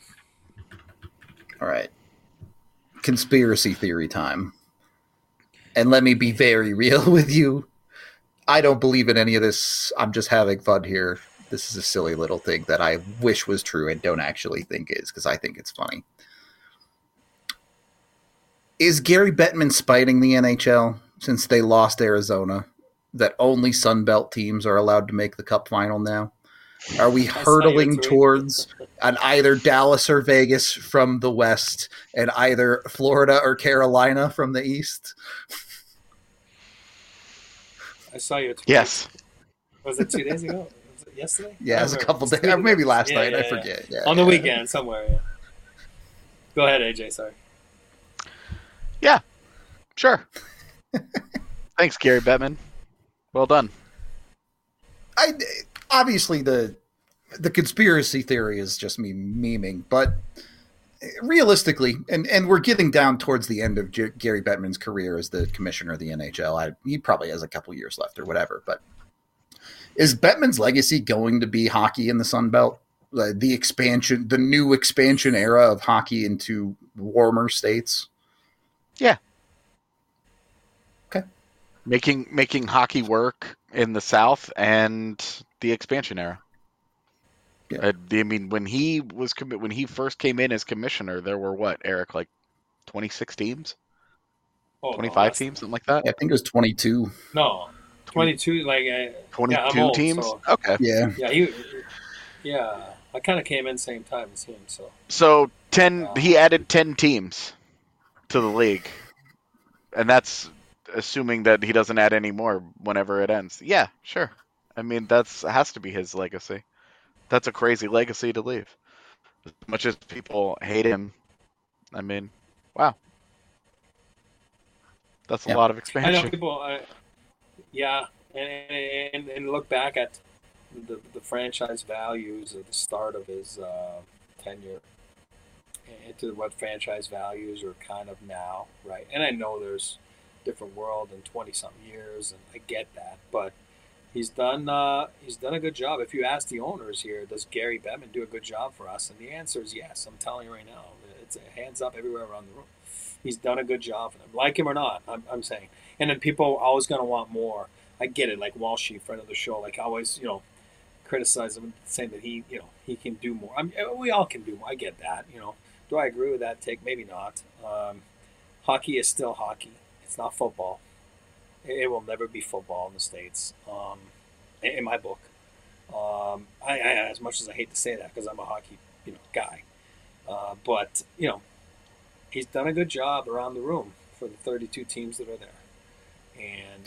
All right. Conspiracy theory time. And let me be very real with you. I don't believe in any of this. I'm just having fun here. This is a silly little thing that I wish was true and don't actually think is, because I think it's funny. Is Gary Bettman spiting the NHL since they lost Arizona, that only Sunbelt teams are allowed to make the Cup final now? Are we hurtling towards an either Dallas or Vegas from the West and either Florida or Carolina from the East? I saw your tweet. Yes. Was it 2 days ago? Was it yesterday? Yeah, it was a couple days. Maybe last night. I forget. Yeah, on the weekend somewhere. Yeah. Go ahead, AJ. Sorry. Yeah. Sure. Thanks, Gary Bettman. Well done. Obviously, the conspiracy theory is just me memeing, but realistically, and we're getting down towards the end of Gary Bettman's career as the commissioner of the NHL. He probably has a couple years left or whatever, but is Bettman's legacy going to be hockey in the Sun Belt? The expansion, the new expansion era of hockey into warmer states? Yeah. Okay. Making hockey work in the South and the expansion era. Yeah. I mean, when he first came in as commissioner, there were Eric, 26 teams? 25 teams, something like that? Yeah, I think it was 22. No, 22, 22 teams? So, okay. Yeah, I kind of came in same time as him, so. So, he added 10 teams to the league. And that's assuming that he doesn't add any more whenever it ends. Yeah, sure. I mean, that's has to be his legacy. That's a crazy legacy to leave. As much as people hate him, I mean, wow, that's a Yeah. lot of I know expansion. people. Yeah, and look back at the franchise values at the start of his tenure into what franchise values are kind of now, right? And I know there's different world in 20 something years, and I get that, but he's done a good job. If you ask the owners here, does Gary Bettman do a good job for us? And the answer is yes. I'm telling you right now, it's a hands up everywhere around the room. He's done a good job for them, like him or not. I'm saying, and then people are always going to want more. I get it, like Walshy, friend of the show, like always, criticize him, saying that he can do more. I mean, we all can do more. I get that. Do I agree with that take? Maybe not. Hockey is still hockey. It's not football. It will never be football in the states, in my book. As much as I hate to say that because I'm a hockey, guy, but he's done a good job around the room for the 32 teams that are there, and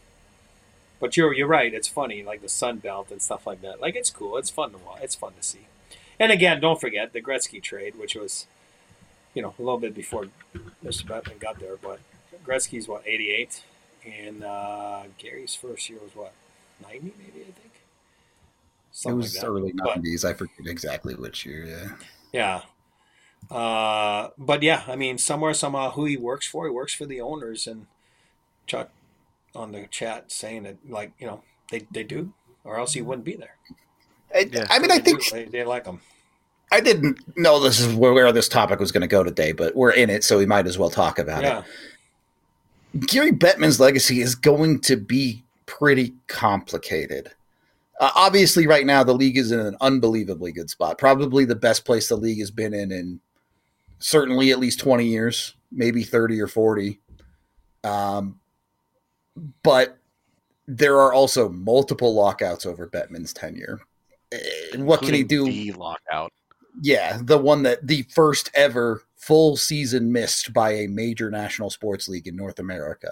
But you're right. It's funny, like the Sun Belt and stuff like that. Like it's cool. It's fun to watch. It's fun to see. And again, don't forget the Gretzky trade, which was a little bit before Mr. Bettman got there. But Gretzky's 88, and Gary's first year was 90 maybe, I think. Something it was like that. Early 90s. I forget exactly which year. Yeah. But yeah, I mean, somehow, who he works for the owners, and Chuck on the chat saying that, like, they do, or else he wouldn't be there. I mean, I think they like him. I didn't know this is where this topic was going to go today, but we're in it, so we might as well talk about it. Gary Bettman's legacy is going to be pretty complicated. Obviously, right now, the league is in an unbelievably good spot. Probably the best place the league has been in certainly at least 20 years, maybe 30 or 40. But there are also multiple lockouts over Bettman's tenure. What can he do? The lockout. Yeah, the first ever full season missed by a major national sports league in North America.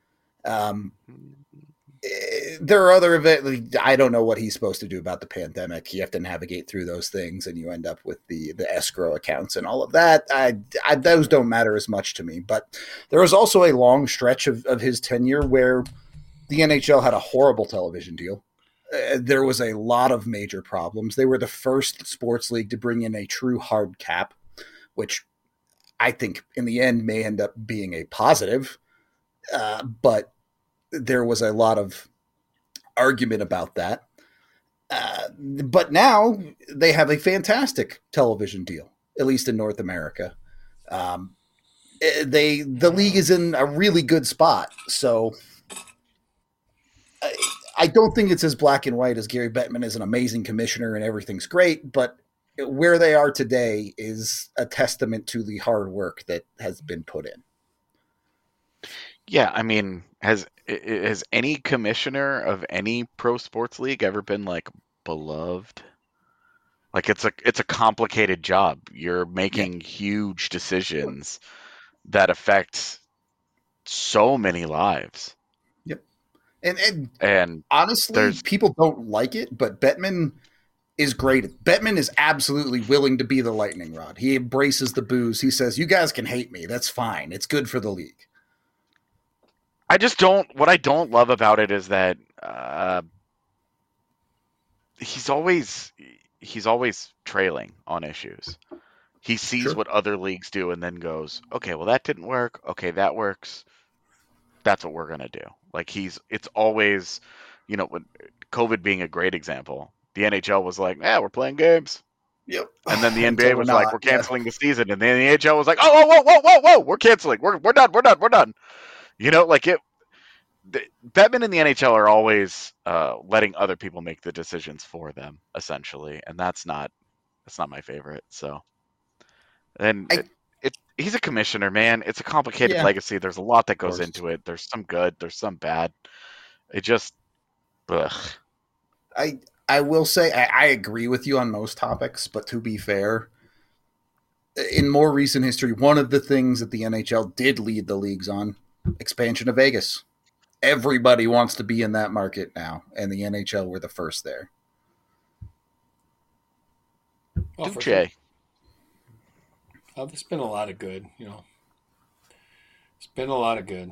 There are other events. I don't know what he's supposed to do about the pandemic. You have to navigate through those things, and you end up with the escrow accounts and all of that. Those don't matter as much to me. But there was also a long stretch of his tenure where the NHL had a horrible television deal. There was a lot of major problems. They were the first sports league to bring in a true hard cap, which I think in the end may end up being a positive. But there was a lot of argument about that. But now they have a fantastic television deal, at least in North America. The league is in a really good spot. So I don't think it's as black and white as Gary Bettman is an amazing commissioner and everything's great, but where they are today is a testament to the hard work that has been put in. Yeah, I mean, has any commissioner of any pro sports league ever been like beloved? Like it's a complicated job. You're making huge decisions that affect so many lives. Yep. And honestly, people don't like it, but Bettman is great. Bettman is absolutely willing to be the lightning rod. He embraces the booze. He says, "You guys can hate me. That's fine. It's good for the league." What I don't love about it is that he's always trailing on issues. He sees what other leagues do and then goes, okay, well that didn't work. Okay, that works. That's what we're gonna do. Like it's always, with COVID being a great example. The NHL was like, yeah, we're playing games. Yep. And then the NBA was like, we're canceling the season. And then the NHL was like, whoa, we're canceling. We're done. Bettman and the NHL are always letting other people make the decisions for them, essentially, and that's not my favorite. So, and he's a commissioner, man. It's a complicated legacy. There's a lot that goes into it. There's some good. There's some bad. It just, ugh. I will say I agree with you on most topics, but to be fair, in more recent history, one of the things that the NHL did lead the leagues on, expansion of Vegas. everybody wants to be in that market now, and the NHL were the first there. Well, Duce. sure. There's been a lot of good, you know. It's been a lot of good.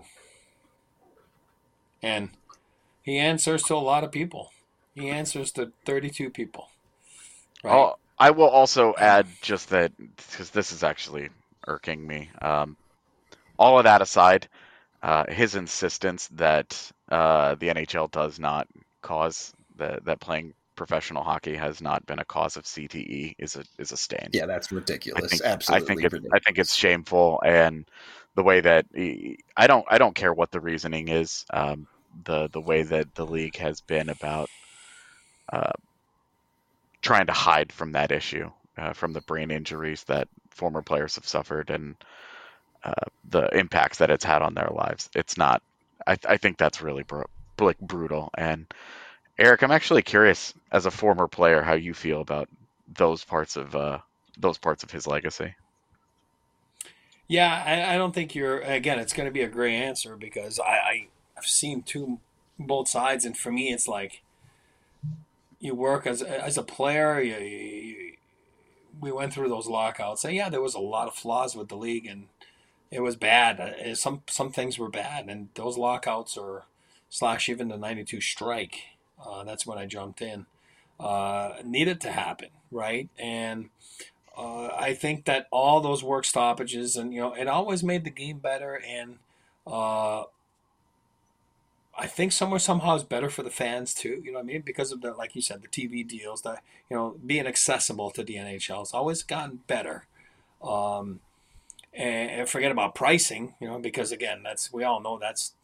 And he answers to a lot of people. He answers to 32 people. Right? I will also add just that, because this is actually irking me. All of that aside, his insistence that the NHL does not cause that playing professional hockey has not been a cause of CTE is a stain. Yeah, that's ridiculous. Absolutely ridiculous. I think it's shameful, and the way that I don't care what the reasoning is. The way that the league has been about trying to hide from that issue, from the brain injuries that former players have suffered, and the impacts that it's had on their lives. It's not. I think that's really brutal. And Eric, I'm actually curious, as a former player, how you feel about those parts of his legacy. Yeah, I don't think you're. Again, it's going to be a gray answer because I've seen both sides, and for me, it's like you work as a player. We went through those lockouts, and yeah, there was a lot of flaws with the league, and it was bad. Some things were bad, and those lockouts / even the '92 strike. That's when I jumped in. Needed to happen, right? And I think that all those work stoppages, and it always made the game better. And I think somehow it's better for the fans too. You know what I mean? Because of the, like you said, the TV deals, that being accessible to the NHL has always gotten better. And forget about pricing, because again, we all know that's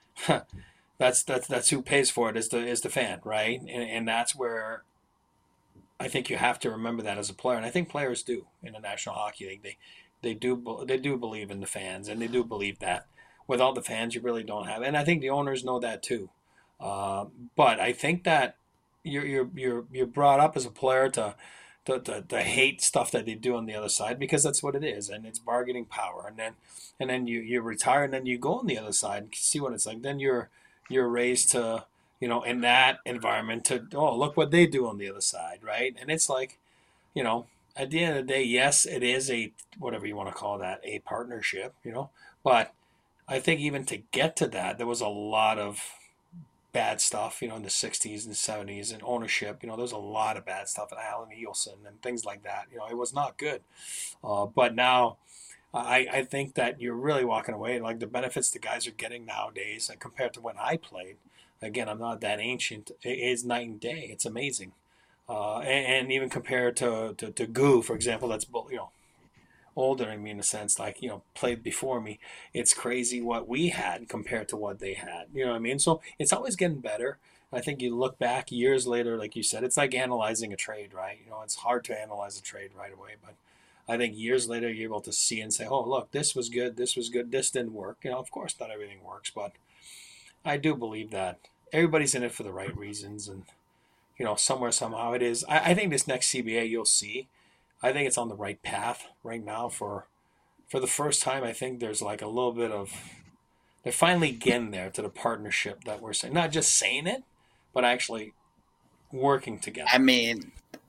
who pays for it is the fan, right? And that's where I think you have to remember that as a player, and I think players do in the National Hockey League. They do believe in the fans, and they do believe that without the fans, you really don't have. And I think the owners know that too. But I think that you're brought up as a player to hate stuff that they do on the other side, because that's what it is, and it's bargaining power. And then you retire, and then you go on the other side and see what it's like. Then you're raised to, in that environment to, oh, look what they do on the other side, right? And it's like, at the end of the day, yes, it is a, whatever you want to call that, a partnership, but I think even to get to that, there was a lot of bad stuff, in the 60s and 70s, and ownership, there's a lot of bad stuff, and Alan Eilson and things like that, it was not good. But now I think that you're really walking away, like the benefits the guys are getting nowadays, and compared to when I played, again, I'm not that ancient, it is night and day. It's amazing. And even compared to Goo, for example, that's, older than me in a sense, like, played before me. It's crazy what we had compared to what they had. You know what I mean? So it's always getting better. I think you look back years later, like you said, it's like analyzing a trade, right? It's hard to analyze a trade right away, but I think years later you're able to see and say, oh, look, this was good, this didn't work. Of course not everything works, but I do believe that everybody's in it for the right reasons, and somewhere, somehow it is. I think this next CBA you'll see, I think it's on the right path right now. For the first time, I think there's like a little bit of, they're finally getting there to the partnership that we're saying. Not just saying it, but actually working together. I mean,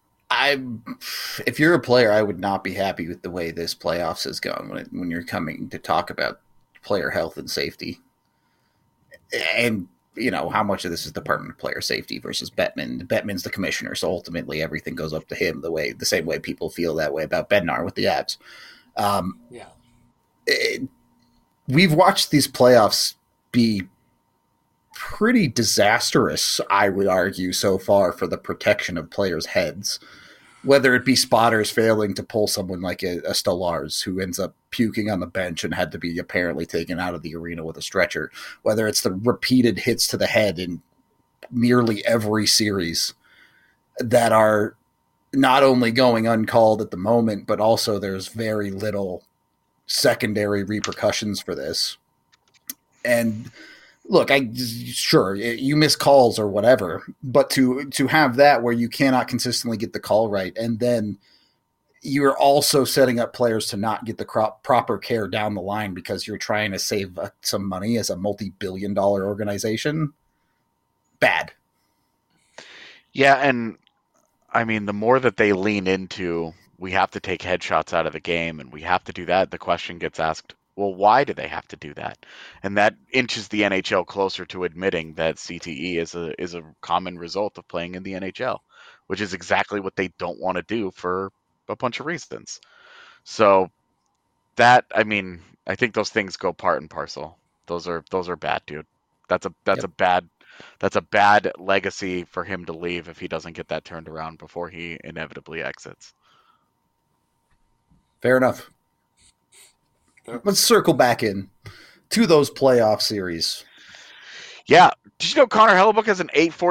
if you're a player, I would not be happy with the way this playoffs is going when you're coming to talk about player health and safety. And how much of this is Department of Player Safety versus Bettman. Bettman's the commissioner, so ultimately everything goes up to him, the same way people feel that way about Bednar with the Avs. We've watched these playoffs be pretty disastrous, I would argue, so far for the protection of players' heads. Whether it be spotters failing to pull someone like a Stolarz, who ends up puking on the bench and had to be apparently taken out of the arena with a stretcher, whether it's the repeated hits to the head in nearly every series that are not only going uncalled at the moment, but also there's very little secondary repercussions for this. And look, sure, you miss calls or whatever, but to have that where you cannot consistently get the call right, and then you're also setting up players to not get the proper care down the line because you're trying to save some money as a multi-billion-dollar organization. Bad. Yeah, and I mean, the more that they lean into, we have to take headshots out of the game, and we have to do that, the question gets asked, well, why do they have to do that? And that inches the NHL closer to admitting that CTE is a common result of playing in the NHL, which is exactly what they don't want to do for a bunch of reasons. So that, I mean, I think those things go part and parcel. Those are bad, dude. That's a bad legacy for him to leave if he doesn't get that turned around before he inevitably exits. Fair enough. Let's circle back in to those playoff series. Yeah. Did you know Connor Hellebuck has an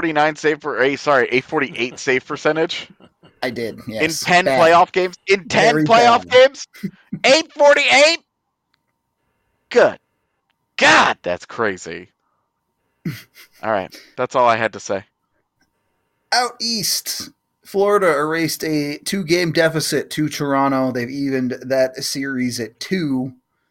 848 save percentage? I did, yes. In 10 playoff games? In 10 playoff games? 848? Good. God, that's crazy. All right. That's all I had to say. Out east, Florida erased a 2-game deficit to Toronto. They've evened that series at 2.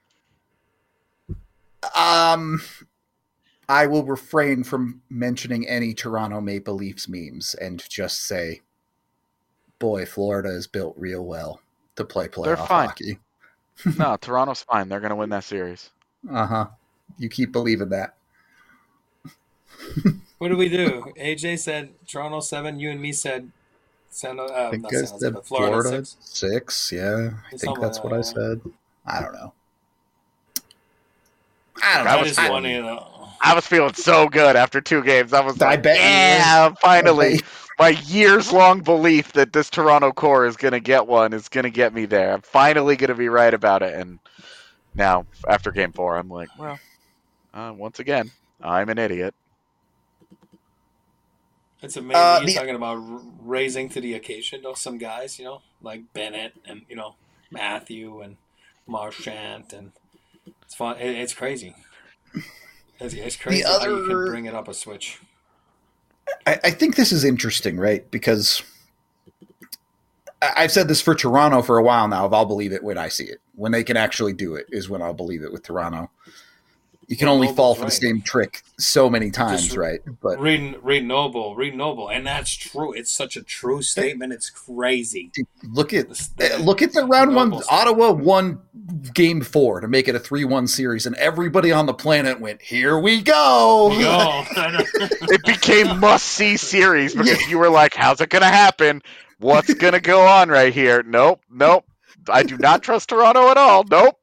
I will refrain from mentioning any Toronto Maple Leafs memes and just say, boy, Florida is built real well to play playoff hockey. No, Toronto's fine. They're going to win that series. Uh-huh. You keep believing that. What do we do? AJ said Toronto 7. You and me said I think I said Florida 6. Yeah, I think that's what I said. I don't know. I was feeling so good after 2 games. I was like, yeah, finally. My years-long belief that this Toronto core is going to get one is going to get me there. I'm finally going to be right about it. And now, after Game 4, I'm like, well, once again, I'm an idiot. It's amazing. You're talking about raising to the occasion, though. Some guys, like Bennett and, Matthew and Marchand. And it's fun. It's crazy. It's crazy how you can bring it up a switch. I think this is interesting, right? Because I've said this for Toronto for a while now. I'll believe it when I see it. When they can actually do it is when I'll believe it with Toronto. You can only fall for the same trick so many times, right? But read Noble, and that's true. It's such a true statement. It's crazy. Look at the round one. Ottawa won Game 4 to make it a 3-1 series, and everybody on the planet went, "Here we go!" It became must-see series because you were like, "How's it going to happen? What's going to go on right here?" Nope. I do not trust Toronto at all. Nope.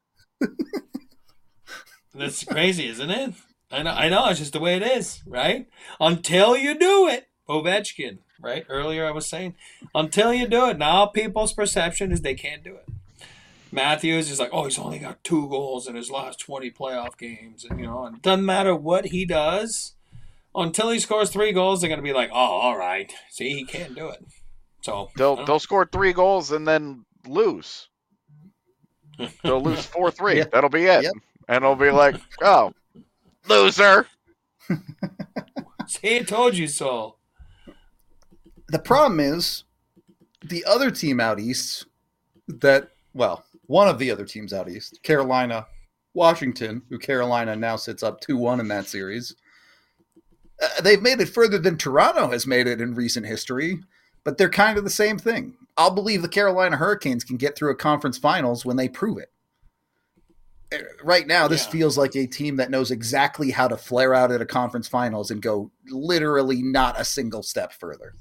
That's crazy, isn't it? I know. It's just the way it is, right? Until you do it. Ovechkin, right? Earlier I was saying, until you do it. Now people's perception is they can't do it. Matthews is like, he's only got 2 goals in his last 20 playoff games. And, and it doesn't matter what he does. Until he scores 3 goals, they're going to be like, all right. See, he can't do it. So they'll score 3 goals and then lose. They'll lose 4-3. Yeah. That'll be it. Yep. And it'll be like, oh, loser. See, I told you so. The problem is the other team out east one of the other teams out east, Carolina, Washington, who Carolina now sits up 2-1 in that series. They've made it further than Toronto has made it in recent history, but they're kind of the same thing. I'll believe the Carolina Hurricanes can get through a conference finals when they prove it. Right now, this feels like a team that knows exactly how to flare out at a conference finals and go literally not a single step further.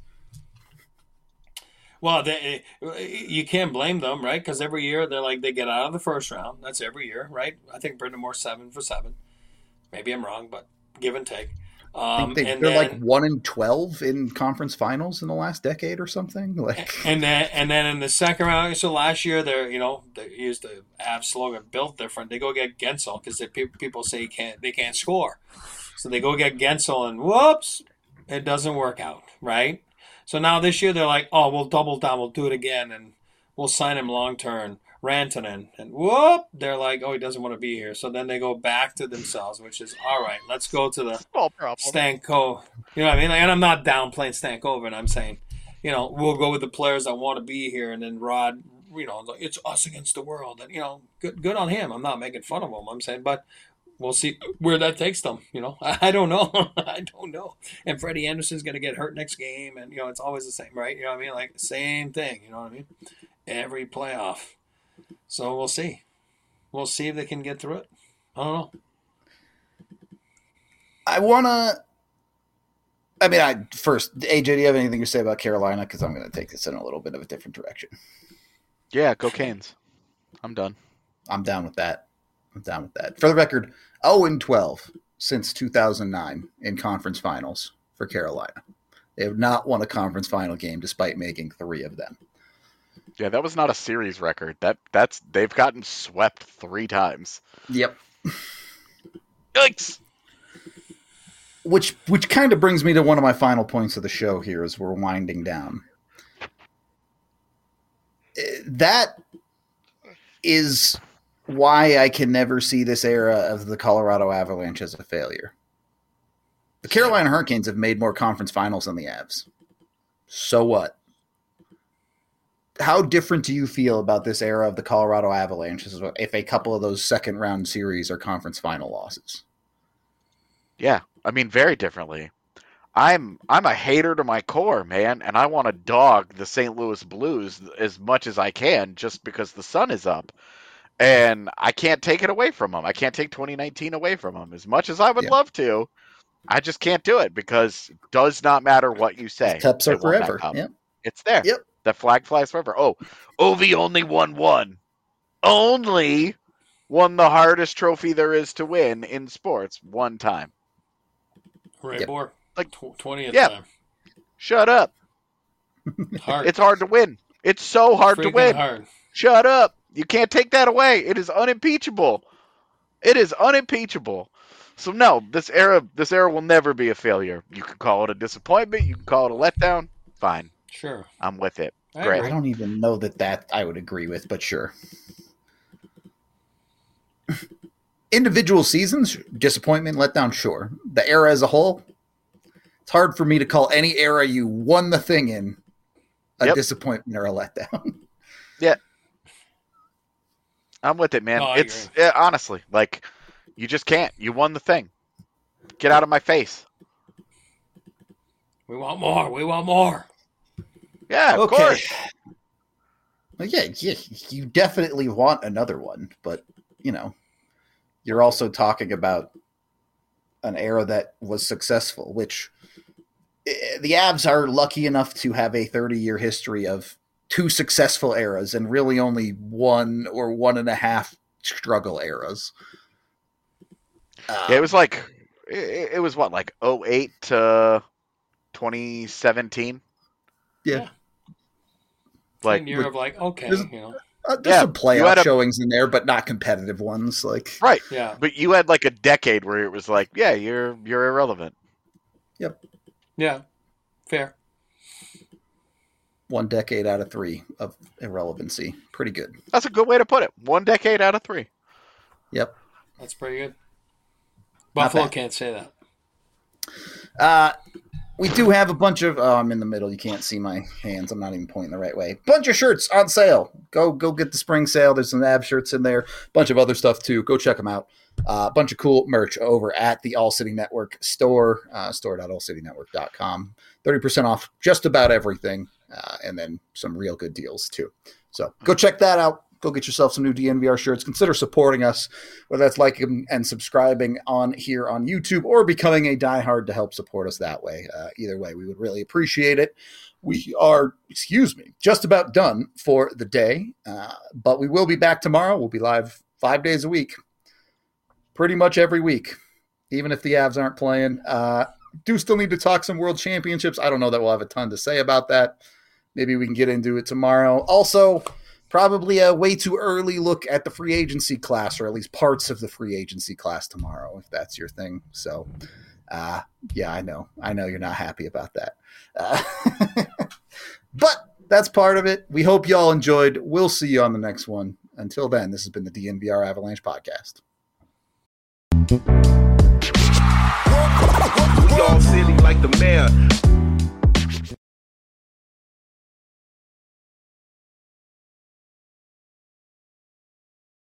Well, you can't blame them, right? Because every year they get out of the first round. That's every year, right? I think Brendan Moore's 7-for-7. Maybe I'm wrong, but give and take. I think they're like 1-12 in conference finals in the last decade or something. And then in the second round, so last year they used the Avs slogan "Built Different." They go get Gensel because people say they can't score, so they go get Gensel and whoops, it doesn't work out, right? So now this year they're like, we'll double down, we'll do it again, and we'll sign him long term. Rantanen, and whoop, they're like, he doesn't want to be here. So then they go back to themselves, which is, all right, let's go to the Stanko. You know what I mean? And I'm not downplaying Stankoven. I'm saying, we'll go with the players that want to be here. And then Rod like, it's us against the world. And, good on him. I'm not making fun of him. I'm saying, but we'll see where that takes them. I don't know. I don't know. And Freddie Anderson's going to get hurt next game. And, it's always the same, right? You know what I mean? Like, same thing. You know what I mean? Every playoff. So we'll see. We'll see if they can get through it. I don't know. First, AJ, do you have anything to say about Carolina? Because I'm going to take this in a little bit of a different direction. Yeah, go Canes. I'm done. I'm down with that. For the record, 0-12 since 2009 in conference finals for Carolina. They have not won a conference final game despite making 3 of them. Yeah, that was not a series record. They've gotten swept 3 times. Yep. Yikes! Which kind of brings me to one of my final points of the show here as we're winding down. That is why I can never see this era of the Colorado Avalanche as a failure. The Carolina Hurricanes have made more conference finals than the Avs. So what? How different do you feel about this era of the Colorado Avalanche if a couple of those second-round series are conference final losses? Yeah, very differently. I'm a hater to my core, man, and I want to dog the St. Louis Blues as much as I can just because the sun is up. And I can't take it away from them. I can't take 2019 away from them. As much as I would love to, I just can't do it because it does not matter what you say. Cups are forever. Yep. It's there. Yep. The flag flies forever. Oh, Ovi only won one. Only won the hardest trophy there is to win in sports one time. Ray Bohr. Like 20th time. Shut up. Hard. It's hard to win. It's so hard to win. Hard. Shut up. You can't take that away. It is unimpeachable. So no, this era will never be a failure. You can call it a disappointment. You can call it a letdown. Fine. Sure. I'm with it. Great. I don't even know that I would agree with, but sure. Individual seasons, disappointment, letdown, sure. The era as a whole, it's hard for me to call any era you won the thing in a disappointment or a letdown. Yeah. I'm with it, man. No, honestly, like, you just can't. You won the thing. Get out of my face. We want more. Yeah, of course. Well, yeah, you definitely want another one, but, you're also talking about an era that was successful, which the Avs are lucky enough to have a 30-year history of 2 successful eras and really only 1 or 1.5 struggle eras. It was like, it was what, like 2008 to 2017? Yeah. Like, year of like, okay, there's some playoff showings in there, but not competitive ones. Like, right. Yeah. But you had like a decade where it was like, yeah, you're irrelevant. Yep. Yeah. Fair. 1 decade out of 3 of irrelevancy. Pretty good. That's a good way to put it. 1 decade out of 3. Yep. That's pretty good. Buffalo can't say that. We do have a bunch of... Oh, I'm in the middle. You can't see my hands. I'm not even pointing the right way. Bunch of shirts on sale. Go get the spring sale. There's some Av shirts in there. Bunch of other stuff, too. Go check them out. A bunch of cool merch over at the All City Network store, store.allcitynetwork.com. 30% off just about everything, and then some real good deals, too. So go check that out. Go get yourself some new DNVR shirts. Consider supporting us, whether that's liking and subscribing on here on YouTube or becoming a diehard to help support us that way. Either way, we would really appreciate it. We are, just about done for the day, but we will be back tomorrow. We'll be live 5 days a week, pretty much every week, even if the Avs aren't playing. Do still need to talk some World Championships. I don't know that we'll have a ton to say about that. Maybe we can get into it tomorrow. Also, probably a way too early look at the free agency class, or at least parts of the free agency class tomorrow, if that's your thing. So, yeah, I know you're not happy about that. But that's part of it. We hope y'all enjoyed. We'll see you on the next one. Until then, this has been the DNVR Avalanche Podcast. We all silly like the mayor.